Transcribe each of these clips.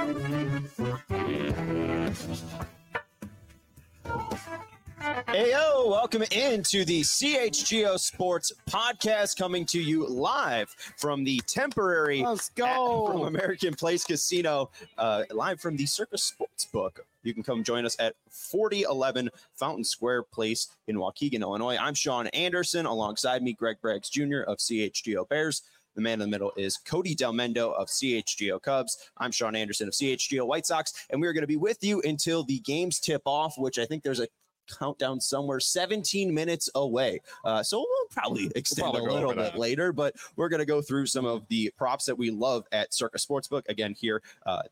Heyo, welcome into the CHGO Sports Podcast, coming to you live from the temporary from American Place Casino, live from the Circus Sportsbook. You can come join us at 4011 Fountain Square Place in Waukegan, Illinois. I'm Sean Anderson. Alongside me, Greg Braggs Jr. of CHGO Bears. The man in the middle is Cody Delmendo of CHGO Cubs. I'm Sean Anderson of CHGO White Sox, and we're going to be with you until the games tip off, which I think there's a countdown somewhere 17 minutes away. So we'll probably extend a little bit later, but we're going to go through some of the props that we love at Circa Sportsbook. Again, here at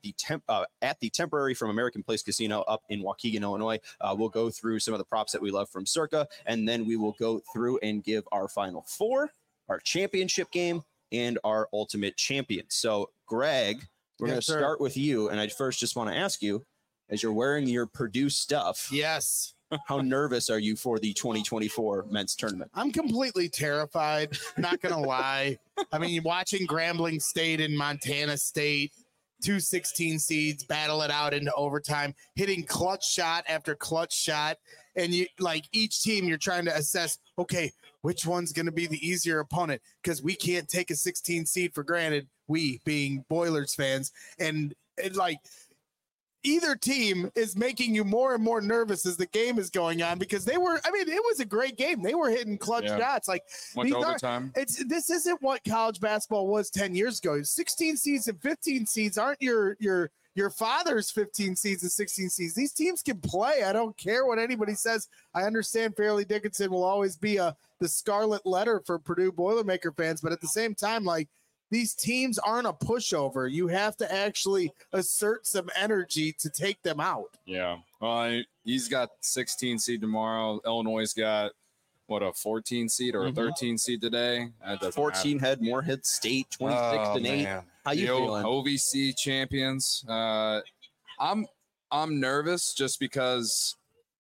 the temporary from American Place Casino up in Waukegan, Illinois. We'll go through some of the props that we love from Circa, and then we will go through and give our final four, our championship game, and our ultimate champion. So, Greg, we're going to start with you, and I first just want to ask you, as you're wearing your Purdue stuff. Yes. How nervous are you for the 2024 men's tournament? I'm completely terrified. Not going to lie. I mean, watching Grambling State and Montana State, 2 16 seeds, battle it out into overtime, hitting clutch shot after clutch shot. And you like each team, you're trying to assess, okay, which one's going to be the easier opponent? Because we can't take a 16 seed for granted, we being Boilers fans. And like, either team is making you more and more nervous as the game is going on, because it was a great game. They were hitting clutch shots. Like, much overtime. This isn't what college basketball was 10 years ago. 16 seeds and 15 seeds aren't your father's 15 seeds and 16 seeds. These teams can play. I don't care what anybody says. I understand Fairleigh Dickinson will always be the scarlet letter for Purdue Boilermaker fans, but at the same time, like, these teams aren't a pushover. You have to actually assert some energy to take them out. Yeah. Well, he's got 16 seed tomorrow. Illinois got, a 14 seed or a 13 seed today? 14 had Morehead State, 26-8. How you feeling? OVC champions. I'm nervous just because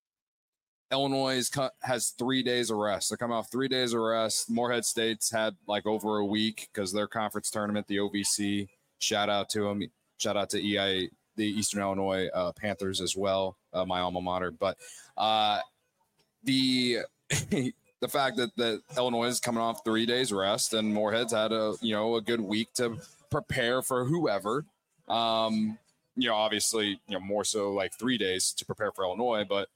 Illinois has 3 days of rest. They're coming off 3 days of rest. Morehead State's had like over a week because their conference tournament, the OVC. Shout out to them. Shout out to EI, the Eastern Illinois Panthers as well, my alma mater. But the fact that Illinois is coming off 3 days rest and Morehead's had a good week to prepare for whoever. Obviously, more so like 3 days to prepare for Illinois, but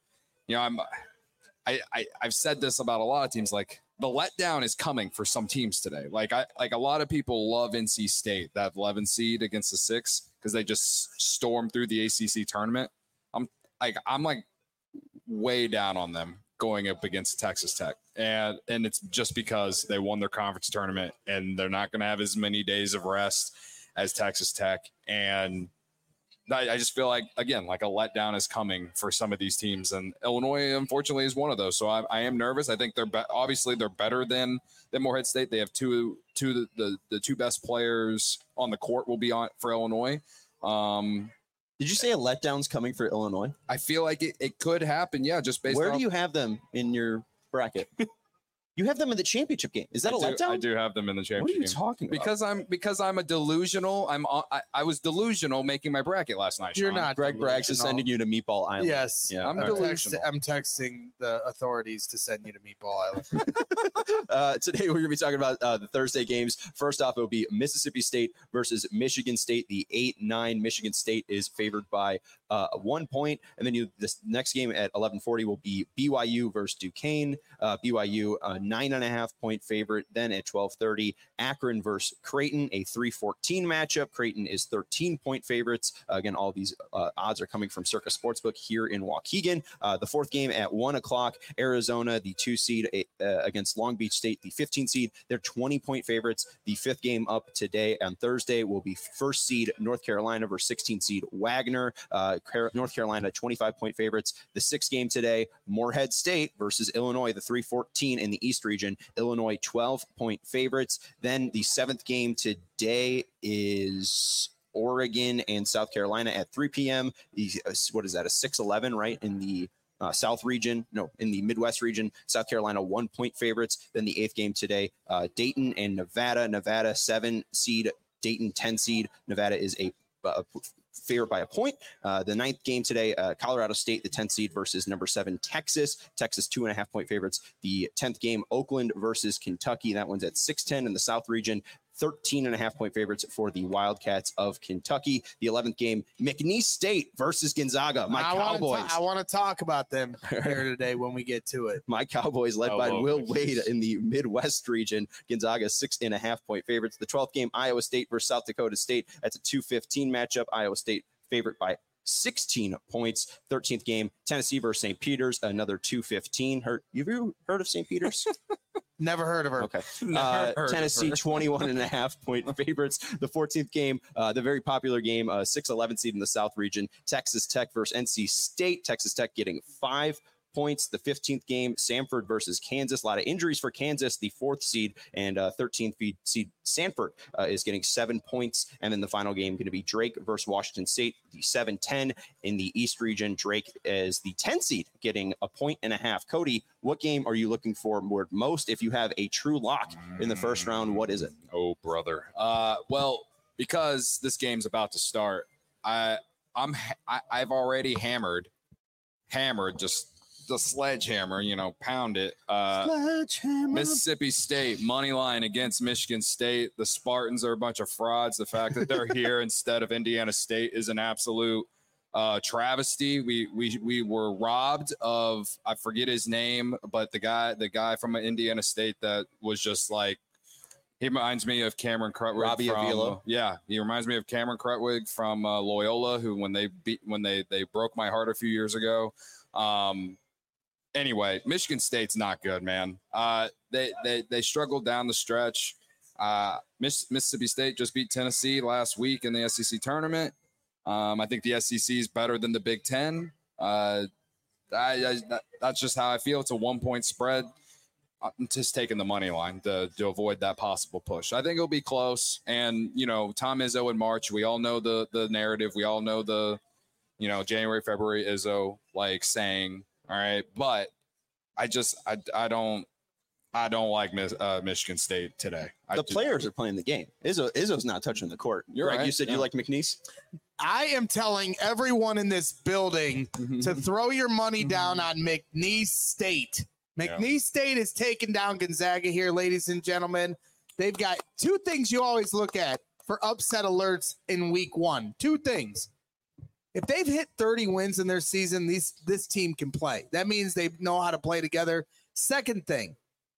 I've said this about a lot of teams. Like, the letdown is coming for some teams today. Like a lot of people love NC State, that 11 seed against the 6, because they just stormed through the ACC tournament. I'm way down on them going up against Texas Tech, and it's just because they won their conference tournament and they're not going to have as many days of rest as Texas Tech. And I just feel like, again, like a letdown is coming for some of these teams, and Illinois, unfortunately, is one of those. So I am nervous. I think they're better than Morehead State. They have the two best players on the court will be on for Illinois. Did you say a letdown's coming for Illinois? I feel like it could happen. Yeah, just based. Where do you have them in your bracket? You have them in the championship game. Is that a letdown? I do have them in the championship game. What are you talking about? Because I'm a delusional. I was delusional making my bracket last night. You're not. Greg Braggs is sending you to Meatball Island. Yes. Yeah. I'm texting the authorities to send you to Meatball Island. Today we're going to be talking about the Thursday games. First off, it will be Mississippi State versus Michigan State. The 8-9 Michigan State is favored by 1 point. And then this next game at 11:40 will be BYU versus Duquesne. BYU 9.5 point favorite. Then at 12:30, Akron versus Creighton, a 3-14 matchup. Creighton is 13-point favorites. Again, all these odds are coming from Circa Sportsbook here in Waukegan. The fourth game at 1 o'clock, Arizona, the 2 seed against Long Beach State, the 15 seed. They're 20-point favorites. The fifth game up today on Thursday will be first seed North Carolina versus 16 seed Wagner. North Carolina 25-point favorites. The sixth game today, Morehead State versus Illinois, the 3-14 in the East region. Illinois 12-point favorites. Then the seventh game today is Oregon and South Carolina at 3 p.m. What is that, a 6-11, right, in the South region? No, in the Midwest region. South Carolina 1-point favorites. Then the eighth game today, Dayton and Nevada. Nevada 7 seed, Dayton 10 seed. Nevada is a favored by a point. The 9th game today, Colorado State, the 10th seed versus number 7 Texas. Texas 2.5-point favorites. The 10th game, Oakland versus Kentucky. That one's at 6-10 in the South region. 13.5-point favorites for the Wildcats of Kentucky. The 11th game, McNeese State versus Gonzaga. Cowboys. I want to talk about them here today when we get to it. My Cowboys, led by Will Wade in the Midwest region. Gonzaga 6.5-point favorites. The 12th game, Iowa State versus South Dakota State. That's a 2:15 matchup. Iowa State favorite by 16 points. 13th game, Tennessee versus St. Peter's, another 2:15. Have you heard of St. Peter's? Never heard of her. Okay. Tennessee 21.5-point favorites. The 14th game, the very popular game, 6-11 seed in the South region, Texas Tech versus NC State. Texas Tech getting 5 points. The 15th game, Samford versus Kansas. A lot of injuries for Kansas, the 4th seed, and 13th seed Sanford is getting 7 points. And then the final game going to be Drake versus Washington State, the 7-10 in the East region. Drake is the 10th seed, getting 1.5 points. Cody, what game are you looking for most? If you have a true lock in the first round, what is it? Oh, brother. Well, because this game's about to start, I've already hammered just the sledgehammer, pound it. Mississippi State money line against Michigan State. The Spartans are a bunch of frauds. The fact that they're here instead of Indiana State is an absolute travesty. We were robbed of, I forget his name, but the guy from Indiana State that was just like, he reminds me of Cameron Krutwig. Robbie Avila. Yeah, he reminds me of Cameron Krutwig from Loyola, who when they broke my heart a few years ago. Anyway, Michigan State's not good, man. They struggled down the stretch. Mississippi State just beat Tennessee last week in the SEC tournament. I think the SEC is better than the Big Ten. That's just how I feel. It's a 1-point spread. I'm just taking the money line to avoid that possible push. I think it'll be close. And, Tom Izzo in March, we all know the narrative. We all know the, January, February Izzo saying, all right, but I don't like Michigan State today. The players are playing the game. Izzo's not touching the court. You're right. You said you like McNeese. I am telling everyone in this building to throw your money down on McNeese State. McNeese State is taking down Gonzaga here, ladies and gentlemen. They've got 2 things you always look at for upset alerts in week 1. 2 things. If they've hit 30 wins in their season, this team can play. That means they know how to play together. Second thing,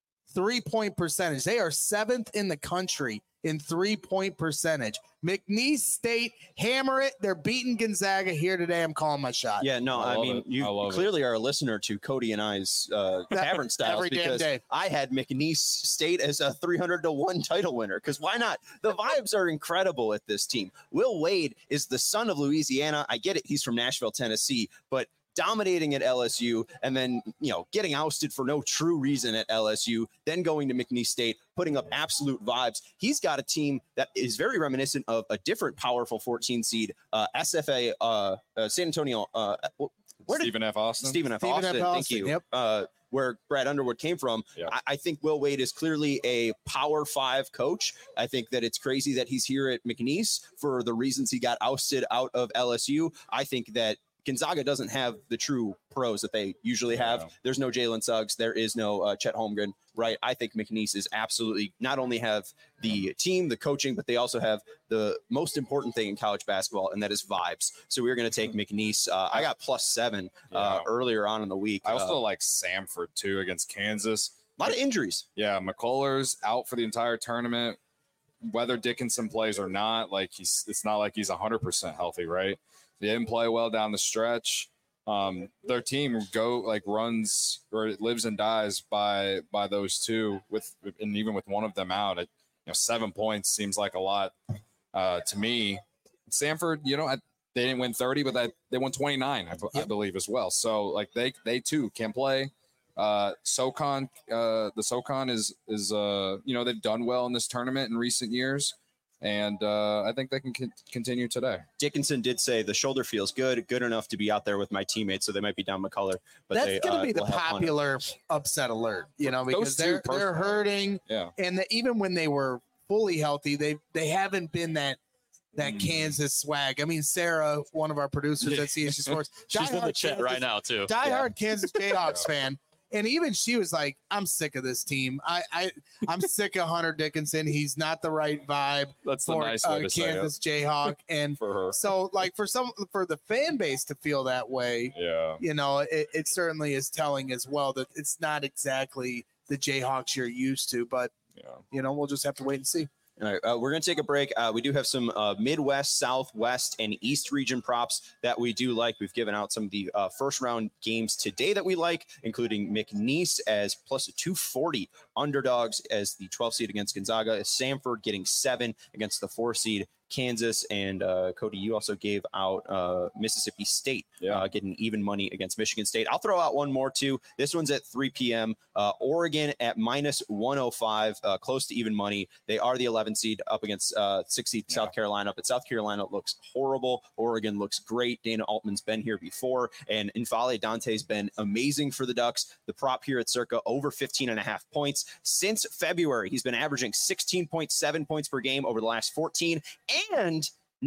3-point percentage. They are 7th in the country in 3-point percentage. McNeese State, hammer it. They're beating Gonzaga here today. I'm calling my shot. Yeah, no, I mean, you clearly are a listener to Cody and I's Tavern Styles every damn because day. I had McNeese State as a 300-1 title winner. Because why not? The vibes are incredible at this team. Will Wade is the son of Louisiana. I get it. He's from Nashville, Tennessee, but dominating at LSU and then, getting ousted for no true reason at LSU, then going to McNeese State, putting up absolute vibes. He's got a team that is very reminiscent of a different powerful 14 seed, SFA, San Antonio. Stephen F. Austin. Stephen F. Austin, thank you. Yep. Where Brad Underwood came from. Yep. I think Will Wade is clearly a Power 5 coach. I think that it's crazy that he's here at McNeese for the reasons he got ousted out of LSU. I think that Gonzaga doesn't have the true pros that they usually have. There's no Jalen Suggs. There is no Chet Holmgren, right? I think McNeese is absolutely not only have the team, the coaching, but they also have the most important thing in college basketball, and that is vibes. So we're going to take McNeese. I got +7 earlier on in the week. I also like Samford, too, against Kansas. A lot of injuries. Yeah, McCullers out for the entire tournament. Whether Dickinson plays or not, it's not like he's 100% healthy, right? They didn't play well down the stretch. Their team runs or it lives and dies by those two. And even with one of them out, 7 points seems like a lot to me. Samford, they didn't win 30, but they won 29, I believe as well. So they too can play. SoCon, the SoCon is they've done well in this tournament in recent years. And I think they can continue today. Dickinson did say the shoulder feels good enough to be out there with my teammates, so they might be down McCullough. But that's going to be the popular upset alert, because they're hurting. Yeah. And even when they were fully healthy, they haven't been that that Kansas swag. I mean, Sarah, one of our producers at CHG Sports, she's in the chat right now too. Diehard Kansas Jayhawks fan. And even she was like, I'm sick of this team. I'm sick of Hunter Dickinson. He's not the right vibe That's the for nice way to say it. Kansas Jayhawk. And For her. so like for the fan base to feel that way, Yeah. you know, it certainly is telling as well that it's not exactly the Jayhawks you're used to, but Yeah. you know, we'll just have to wait and see. All right, we're going to take a break. We do have some Midwest, Southwest, and East region props that we do like. We've given out some of the first round games today that we like, including McNeese as plus a 240 underdogs as the 12 seed against Gonzaga. Samford getting 7 against the 4 seed Kansas. And Cody, you also gave out Mississippi State getting even money against Michigan State. I'll throw out one more too. This one's at 3 p.m. Oregon at minus 105, close to even money. They are the 11 seed up against 6 seed South Carolina, but South Carolina looks horrible. Oregon looks great. Dana Altman's been here before, and N'Faly Dante's been amazing for the Ducks. The prop here at circa over 15.5 points. Since February, he's been averaging 16.7 points per game over the last 14 and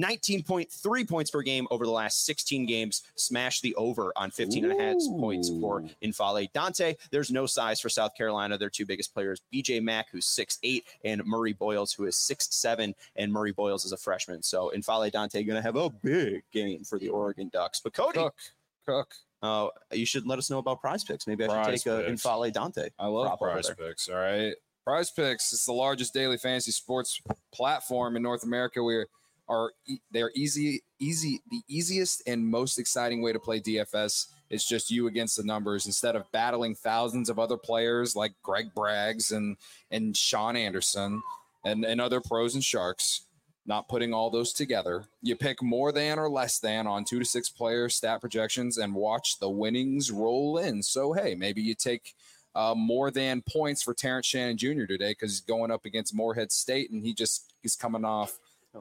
19.3 points per game over the last 16 games. Smash the over on 15.5 points for N'Faly Dante. There's no size for South Carolina. Their two biggest players, BJ Mack, who's 6'8", and Murray Boyles, who is 6'7", and Murray Boyles is a freshman. So N'Faly Dante going to have a big game for the Oregon Ducks. But Cody, Cook. you should let us know about Prize Picks. Maybe I should take a N'Faly Dante. I love Prize Picks. All right. Prize Picks is the largest daily fantasy sports platform in North America. They're the easiest and most exciting way to play DFS. It's just you against the numbers instead of battling thousands of other players like Greg Braggs and Sean Anderson and other pros and sharks. Not putting all those together. You pick more than or less than on 2 to 6 player stat projections and watch the winnings roll in. So, hey, maybe you take more than points for Terrence Shannon Jr. today because he's going up against Morehead State and he's coming off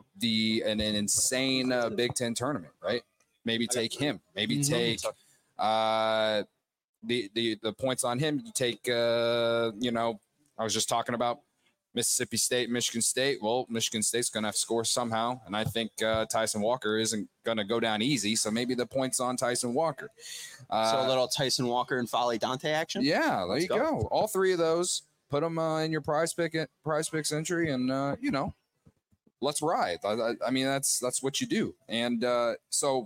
an insane Big Ten tournament, right? Maybe take him. Maybe take the points on him. You take, I was just talking about Mississippi State, Michigan State. Well, Michigan State's going to have to score somehow. And I think Tyson Walker isn't going to go down easy. So maybe the point's on Tyson Walker. So a little Tyson Walker and N'Faly Dante action? Yeah, there you go. All 3 of those. Put them in your Prize Picks entry and, let's ride. I mean, that's what you do. And the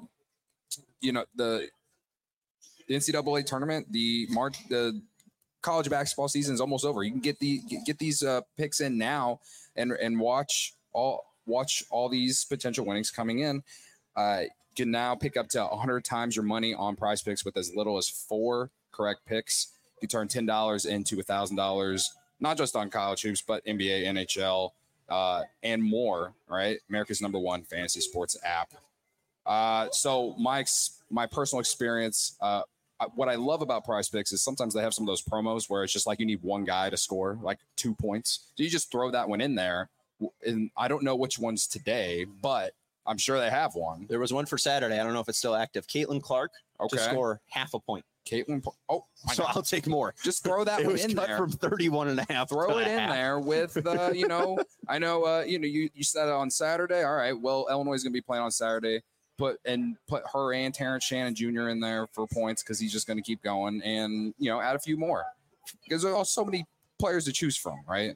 NCAA tournament, the college basketball season is almost over. You can get these picks in now and watch all these potential winnings coming in. You can now pick up to 100 times your money on Prize Picks with as little as 4 correct picks. You turn $10 into $1,000, not just on college hoops, but NBA, NHL, and more. Right, America's #1 fantasy sports app. So my personal experience. What I love about Prize Picks is sometimes they have some of those promos where it's just like you need one guy to score like 2 points. So you just throw that one in there. And I don't know which one's today, but I'm sure they have one. There was one for Saturday. I don't know if it's still active. Caitlin Clark to score half a point. So I'll take more. Just throw that one in there. From 31.5. Throw it in there with, I know, you said it on Saturday. All right. Well, Illinois is going to be playing on Saturday. Put her and Terrence Shannon Jr. in there for points because he's just going to keep going and, add a few more because there are so many players to choose from, right?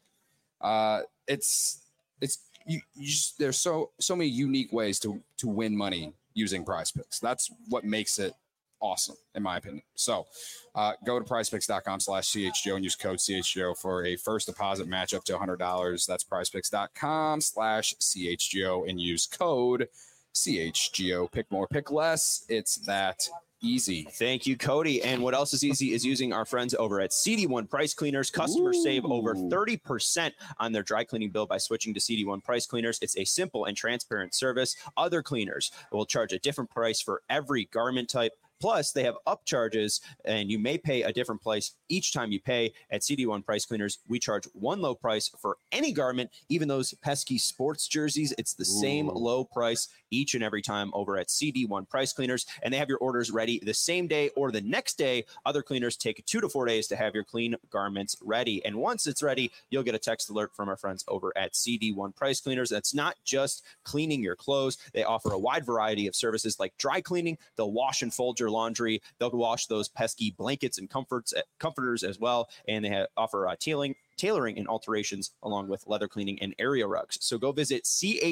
There's so many unique ways to win money using Prize Picks. That's what makes it awesome, in my opinion. So go to prizepicks.com/CHGO and use code CHGO for a first deposit match up to $100. That's prizepicks.com/CHGO and use code CHGO. Pick more, pick less. It's that easy. Thank you, Cody. And what else is easy is using our friends over at CD1 Price Cleaners. Customers save over 30% on their dry cleaning bill by switching to CD1 Price Cleaners. It's a simple and transparent service. Other cleaners will charge a different price for every garment type, Plus, they have upcharges, and you may pay a different price each time you pay. At CD1 Price Cleaners, we charge one low price for any garment, even those pesky sports jerseys. It's the same low price each and every time over at CD1 Price Cleaners, and they have your orders ready the same day or the next day. Other cleaners take 2 to 4 days to have your clean garments ready, and once it's ready, you'll get a text alert from our friends over at CD1 Price Cleaners. That's not just cleaning your clothes. They offer a wide variety of services like dry cleaning. They'll wash and fold your laundry. They'll wash those pesky blankets and comforters as well, and they offer tailoring and alterations along with leather cleaning and area rugs. So go visit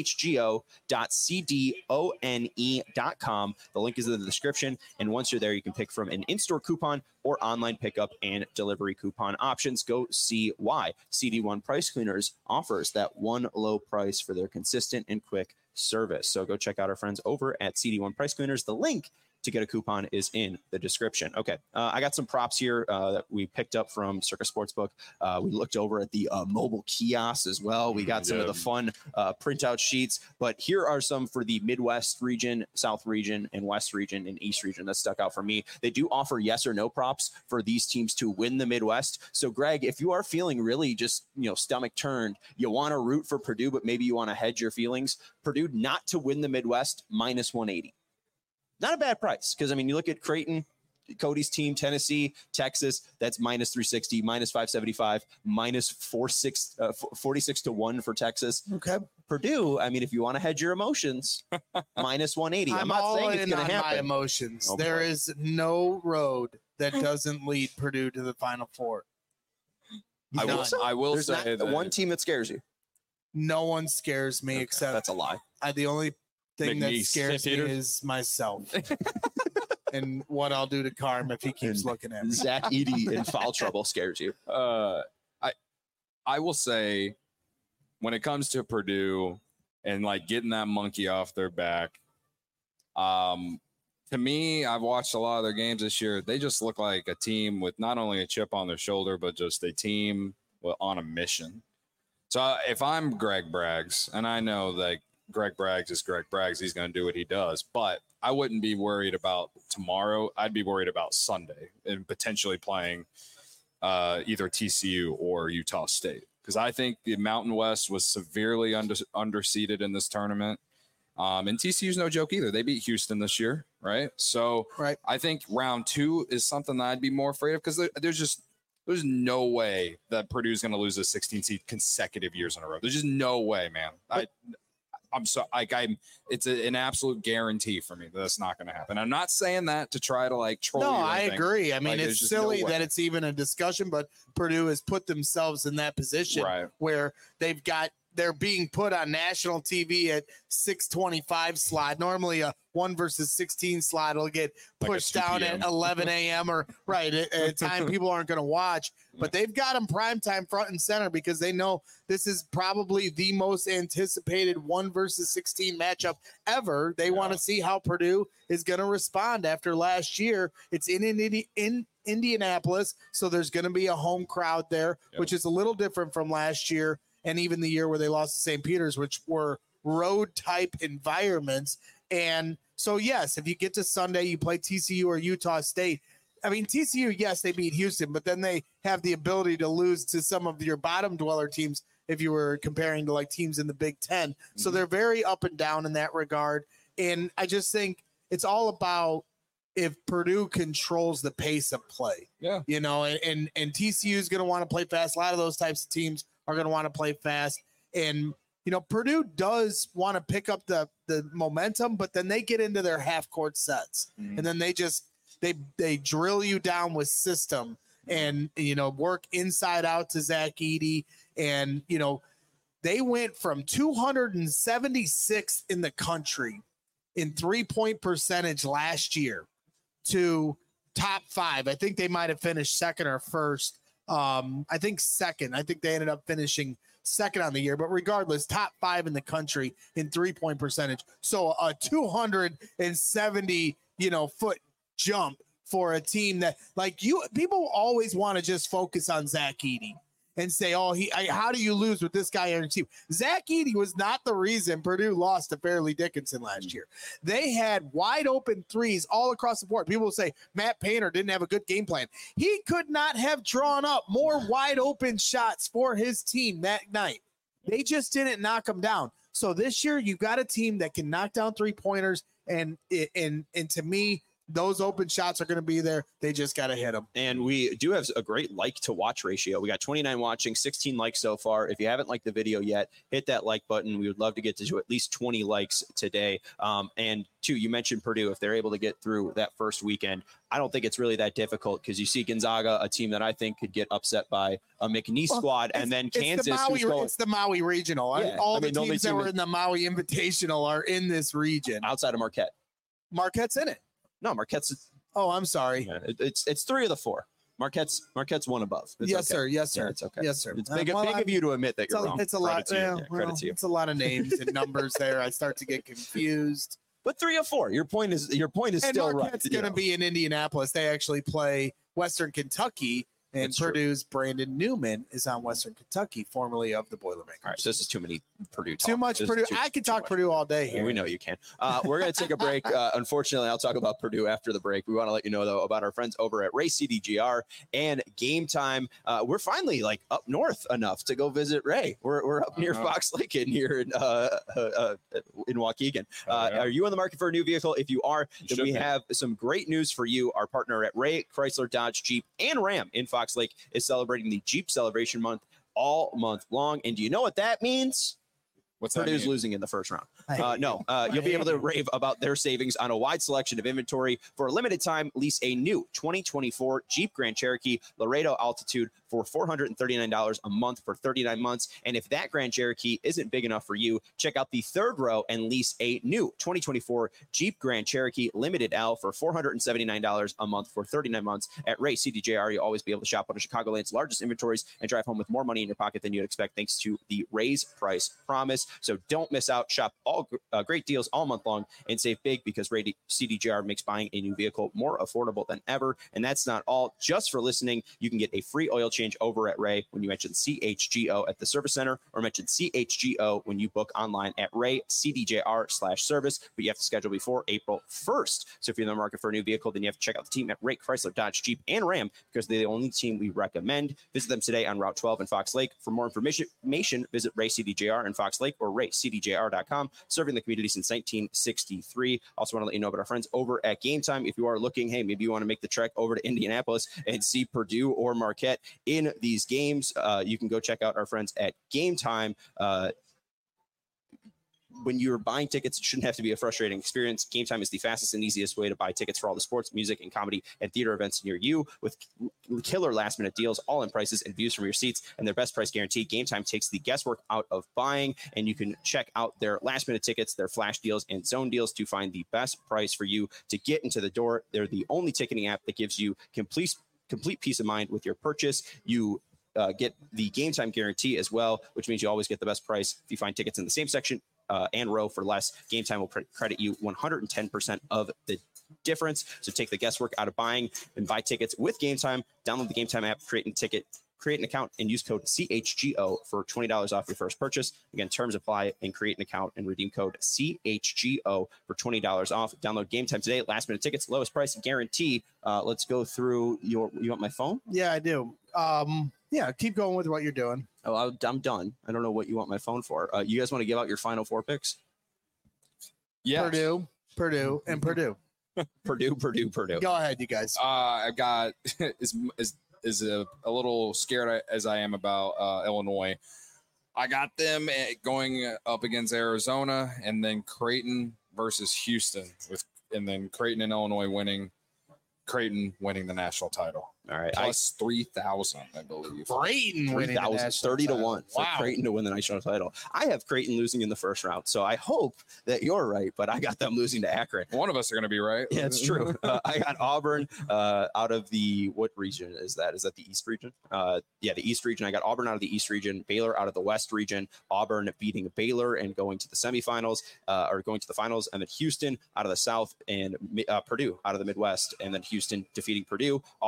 chgo.cdone.com. The link is in the description. And once you're there, you can pick from an in-store coupon or online pickup and delivery coupon options. Go see why CD1 Price Cleaners offers that one low price for their consistent and quick service. So go check out our friends over at CD1 Price Cleaners. The link to get a coupon is in the description. Okay, I got some props here that we picked up from Circus Sportsbook. We looked over at the mobile kiosks as well. We got some of the fun printout sheets, but here are some for the Midwest region, South region, and West region, and East region that stuck out for me. They do offer yes or no props for these teams to win the Midwest. So Greg, if you are feeling really just, stomach turned, you want to root for Purdue, but maybe you want to hedge your feelings, Purdue not to win the Midwest, minus 180. Not a bad price, because, you look at Creighton, Cody's team, Tennessee, Texas, that's minus 360, minus 575, minus 46 to 1 for Texas. Okay. Purdue, if you want to hedge your emotions, minus 180. I'm not saying it's going to happen. My emotions. Okay. There is no road that doesn't lead Purdue to the Final Four. I will There's say not one team that scares you. No one scares me except that's a lie. The only thing that McNeese. scares me is myself and what I'll do to Carm if he keeps looking at me. Zach Edey in foul trouble scares you. I will say, when it comes to Purdue and getting that monkey off their back, to me, I've watched a lot of their games this year. They just look like a team with not only a chip on their shoulder, but just a team on a mission. So if I'm Greg Braggs, and I know that Greg Braggs is Greg Braggs, he's going to do what he does, but I wouldn't be worried about tomorrow. I'd be worried about Sunday and potentially playing either TCU or Utah State, because I think the Mountain West was severely underseeded in this tournament. And TCU's no joke either. They beat Houston this year, right? So I think round 2 is something that I'd be more afraid of, because there's no way that Purdue's going to lose a 16 seed consecutive years in a row. There's just no way, man. I'm so it's an absolute guarantee for me that that's not going to happen. I'm not saying that to try to troll. No, you or I anything. agree. It's silly that it's even a discussion, but Purdue has put themselves in that position where they're being put on national TV at 6:25 slot. Normally a 1 versus 16 slot will get pushed down at 11 a.m. or at a time people aren't going to watch. But they've got them primetime front and center because they know this is probably the most anticipated 1 versus 16 matchup ever. They want to see how Purdue is going to respond after last year. It's in Indianapolis, so there's going to be a home crowd there, which is a little different from last year and even the year where they lost to St. Peter's, which were road-type environments. And so, yes, if you get to Sunday, you play TCU or Utah State. TCU, yes, they beat Houston, but then they have the ability to lose to some of your bottom dweller teams if you were comparing to teams in the Big Ten. So they're very up and down in that regard. And I just think it's all about if Purdue controls the pace of play. Yeah. And TCU is going to want to play fast. A lot of those types of teams are going to want to play fast. And, Purdue does want to pick up the momentum, but then they get into their half-court sets. And then they drill you down with system and, work inside out to Zach Edey. And, they went from 276th in the country in 3-point percentage last year to top 5. I think they might have finished second or first. I think second. I think they ended up finishing second on the year, but regardless, top 5 in the country in 3-point percentage. So a 270, foot jump for a team that people always want to just focus on Zach Edey. and say, oh, how do you lose with this guy on your team? Zach Edey was not the reason Purdue lost to Fairleigh Dickinson last year. They had wide open threes all across the board. People will say Matt Painter didn't have a good game plan. He could not have drawn up more wide open shots for his team that night. They just didn't knock them down. So this year, you've got a team that can knock down 3-pointers, and to me, those open shots are going to be there. They just got to hit them. And we do have a great like to watch ratio. We got 29 watching, 16 likes so far. If you haven't liked the video yet, hit that like button. We would love to get to at least 20 likes today. And two, you mentioned Purdue. If they're able to get through that first weekend, I don't think it's really that difficult because you see Gonzaga, a team that I think could get upset by a McNeese squad, and then Kansas. It's the Maui Regional. Yeah, all the teams that were in the Maui Invitational are in this region. Outside of Marquette. Marquette's in it. No, Marquette's. Oh, I'm sorry. Yeah, it's 3 of the 4. Marquette's one above. It's yes, okay. sir. Yes, sir. Yeah, it's okay. Yes, sir. It's big of you to admit that you're wrong. It's a lot. Credit to you. It's a lot of names and numbers there. I start to get confused. But 3 of 4. Your point is and still right. Marquette's going to be in Indianapolis. They actually play Western Kentucky. And That's Purdue's Brandon Newman is on Western Kentucky, formerly of the Boilermakers. All right, so this is too many Purdue talk. Too much Purdue. I could talk Purdue all day here. We know you can. We're going to take a break. Unfortunately, I'll talk about Purdue after the break. We want to let you know, though, about our friends over at Ray CDGR and Game Time. We're finally up north enough to go visit Ray. We're up near Fox Lake in here in Waukegan. Are you on the market for a new vehicle? If you are, then we have some great news for you. Our partner at Ray Chrysler Dodge Jeep and Ram in Fox Lake is celebrating the Jeep Celebration Month all month long. And do you know what that means? Purdue's losing in the first round. You'll be able to rave about their savings on a wide selection of inventory. For a limited time, lease a new 2024 Jeep Grand Cherokee Laredo Altitude for $439 a month for 39 months. And if that Grand Cherokee isn't big enough for you, check out the third row and lease a new 2024 Jeep Grand Cherokee Limited L for $479 a month for 39 months. At Ray CDJR, you'll always be able to shop one of Chicagoland's largest inventories and drive home with more money in your pocket than you'd expect thanks to the Ray's Price Promise. So don't miss out. Shop all great deals all month long and save big because Ray CDJR makes buying a new vehicle more affordable than ever. And that's not all. Just for listening, you can get a free oil change over at Ray when you mention CHGO at the service center or mention CHGO when you book online at RayCDJR/service. But you have to schedule before April 1st. So if you're in the market for a new vehicle, then you have to check out the team at Ray Chrysler Dodge Jeep and Ram because they're the only team we recommend. Visit them today on Route 12 in Fox Lake. For more information, visit Ray CDJR in Fox Lake or RayCDJR.com. Serving the community since 1963. Also want to let you know about our friends over at Game Time. If you are looking, hey, maybe you want to make the trek over to Indianapolis and see Purdue or Marquette in these games, you can go check out our friends at Game Time. When you're buying tickets, it shouldn't have to be a frustrating experience. Game Time is the fastest and easiest way to buy tickets for all the sports, music, and comedy and theater events near you with killer last-minute deals, all-in prices and views from your seats, and their best price guarantee. Game Time takes the guesswork out of buying, and you can check out their last-minute tickets, their flash deals, and zone deals to find the best price for you to get into the door. They're the only ticketing app that gives you complete peace of mind with your purchase. You get the Game Time guarantee as well, which means you always get the best price. If you find tickets in the same section and row for less, Game Time will credit you 110% of the difference. So take the guesswork out of buying and buy tickets with Game Time. Download the Game Time app, create an account, and use code CHGO for $20 off your first purchase. Again, terms apply, and create an account and redeem code CHGO for $20 off. Download Game Time today. Last minute tickets, lowest price guarantee. Let's go through you want my phone? Yeah, I do. Yeah, keep going with what you're doing. Oh, I'm done. I don't know what you want my phone for. You guys want to give out your final 4 picks? Yeah. Purdue, and Purdue. Purdue. Go ahead, you guys. I got is a little scared as I am about Illinois. I got them going up against Arizona, and then Creighton versus Houston, and then Creighton and Illinois winning. Creighton winning the national title. All right. Plus 3,000, I believe. Creighton winning 30-1 for wow. Creighton to win the national title. I have Creighton losing in the first round, so I hope that you're right, but I got them losing to Akron. One of us are going to be right. Yeah, it's true. I got Auburn out of what region is that? Is that the East region? The East region. I got Auburn out of the East region, Baylor out of the West region, Auburn beating Baylor and going to the semifinals or going to the finals, and then Houston out of the South and Purdue out of the Midwest, and then Houston defeating Purdue, Auburn, Houston,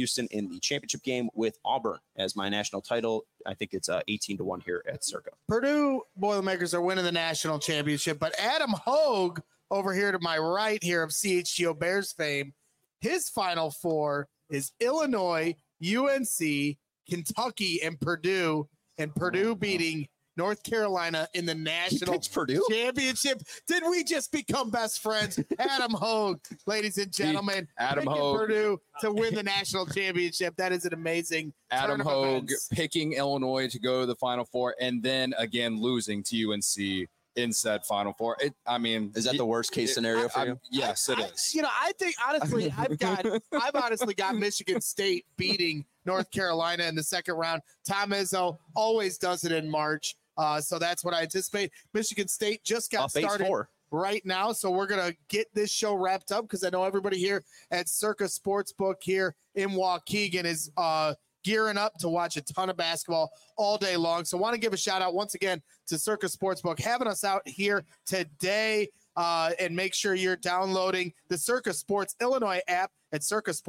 Houston in the championship game with Auburn as my national title. I think it's 18-1 here at Circa. Purdue Boilermakers are winning the national championship, but Adam Hogue over here to my right here of CHGO Bears fame, his Final Four is Illinois, UNC, Kentucky, and Purdue beating North Carolina in the national championship. Did we just become best friends? Adam Hogue, ladies and gentlemen, Adam picking Hogue. Purdue to win the national championship. That is an amazing Adam turn of Hogue events. picking Illinois to go to the Final Four and then again losing to UNC in said Final Four. Is that the worst case scenario for you? Yes, it is. I think honestly, I've honestly got Michigan State beating North Carolina in the second round. Tom Izzo always does it in March. So that's what I anticipate. Michigan State just got started right now. So we're going to get this show wrapped up because I know everybody here at Circa Sportsbook here in Waukegan is gearing up to watch a ton of basketball all day long. So want to give a shout out once again to Circa Sportsbook having us out here today. And make sure you're downloading the Circa Sports Illinois app at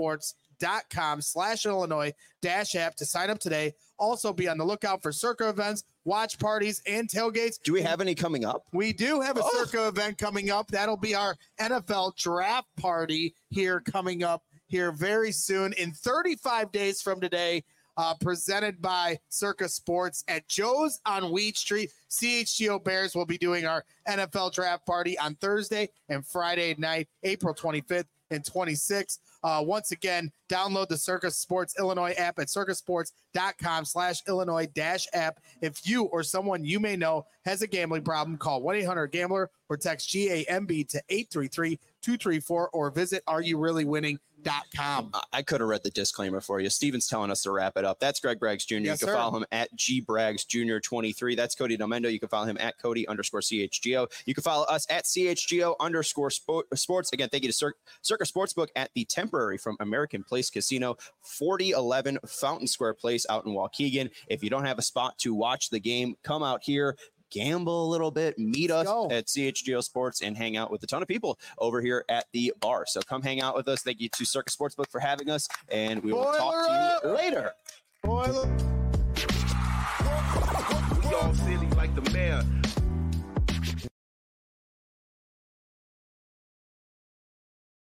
circasports.com/Illinois-app to sign up today. Also be on the lookout for Circa events, watch parties, and tailgates. Do we have any coming up? We do have a Circa event coming up. That'll be our NFL draft party here coming up here very soon in 35 days from today. Presented by Circa Sports at Joe's on Weed Street. CHGO Bears will be doing our NFL draft party on Thursday and Friday night, April 25th and 26th. Once again, download the Circa Sports Illinois app at circasports.com/Illinois-app. If you or someone you may know has a gambling problem, call 1-800-GAMBLER or text GAMB to 833-234 or visit areyoureallywinning.com. I could have read the disclaimer for you. Steven's telling us to wrap it up. That's Greg Braggs Jr. Yes, you can follow him at GBraggs Jr. 23. That's Cody Delmendo. You can follow him at Cody_CHGO. You can follow us at CHGO_sports. Again, thank you to Circa Sportsbook at the temporary from American Place Casino, 4011 Fountain Square Place out in Waukegan. If you don't have a spot to watch the game, come out here. Gamble a little bit, meet us at CHGO Sports, and hang out with a ton of people over here at the bar. So come hang out with us. Thank you to Circa Sportsbook for having us, and we will talk to you later. We all silly like the mayor.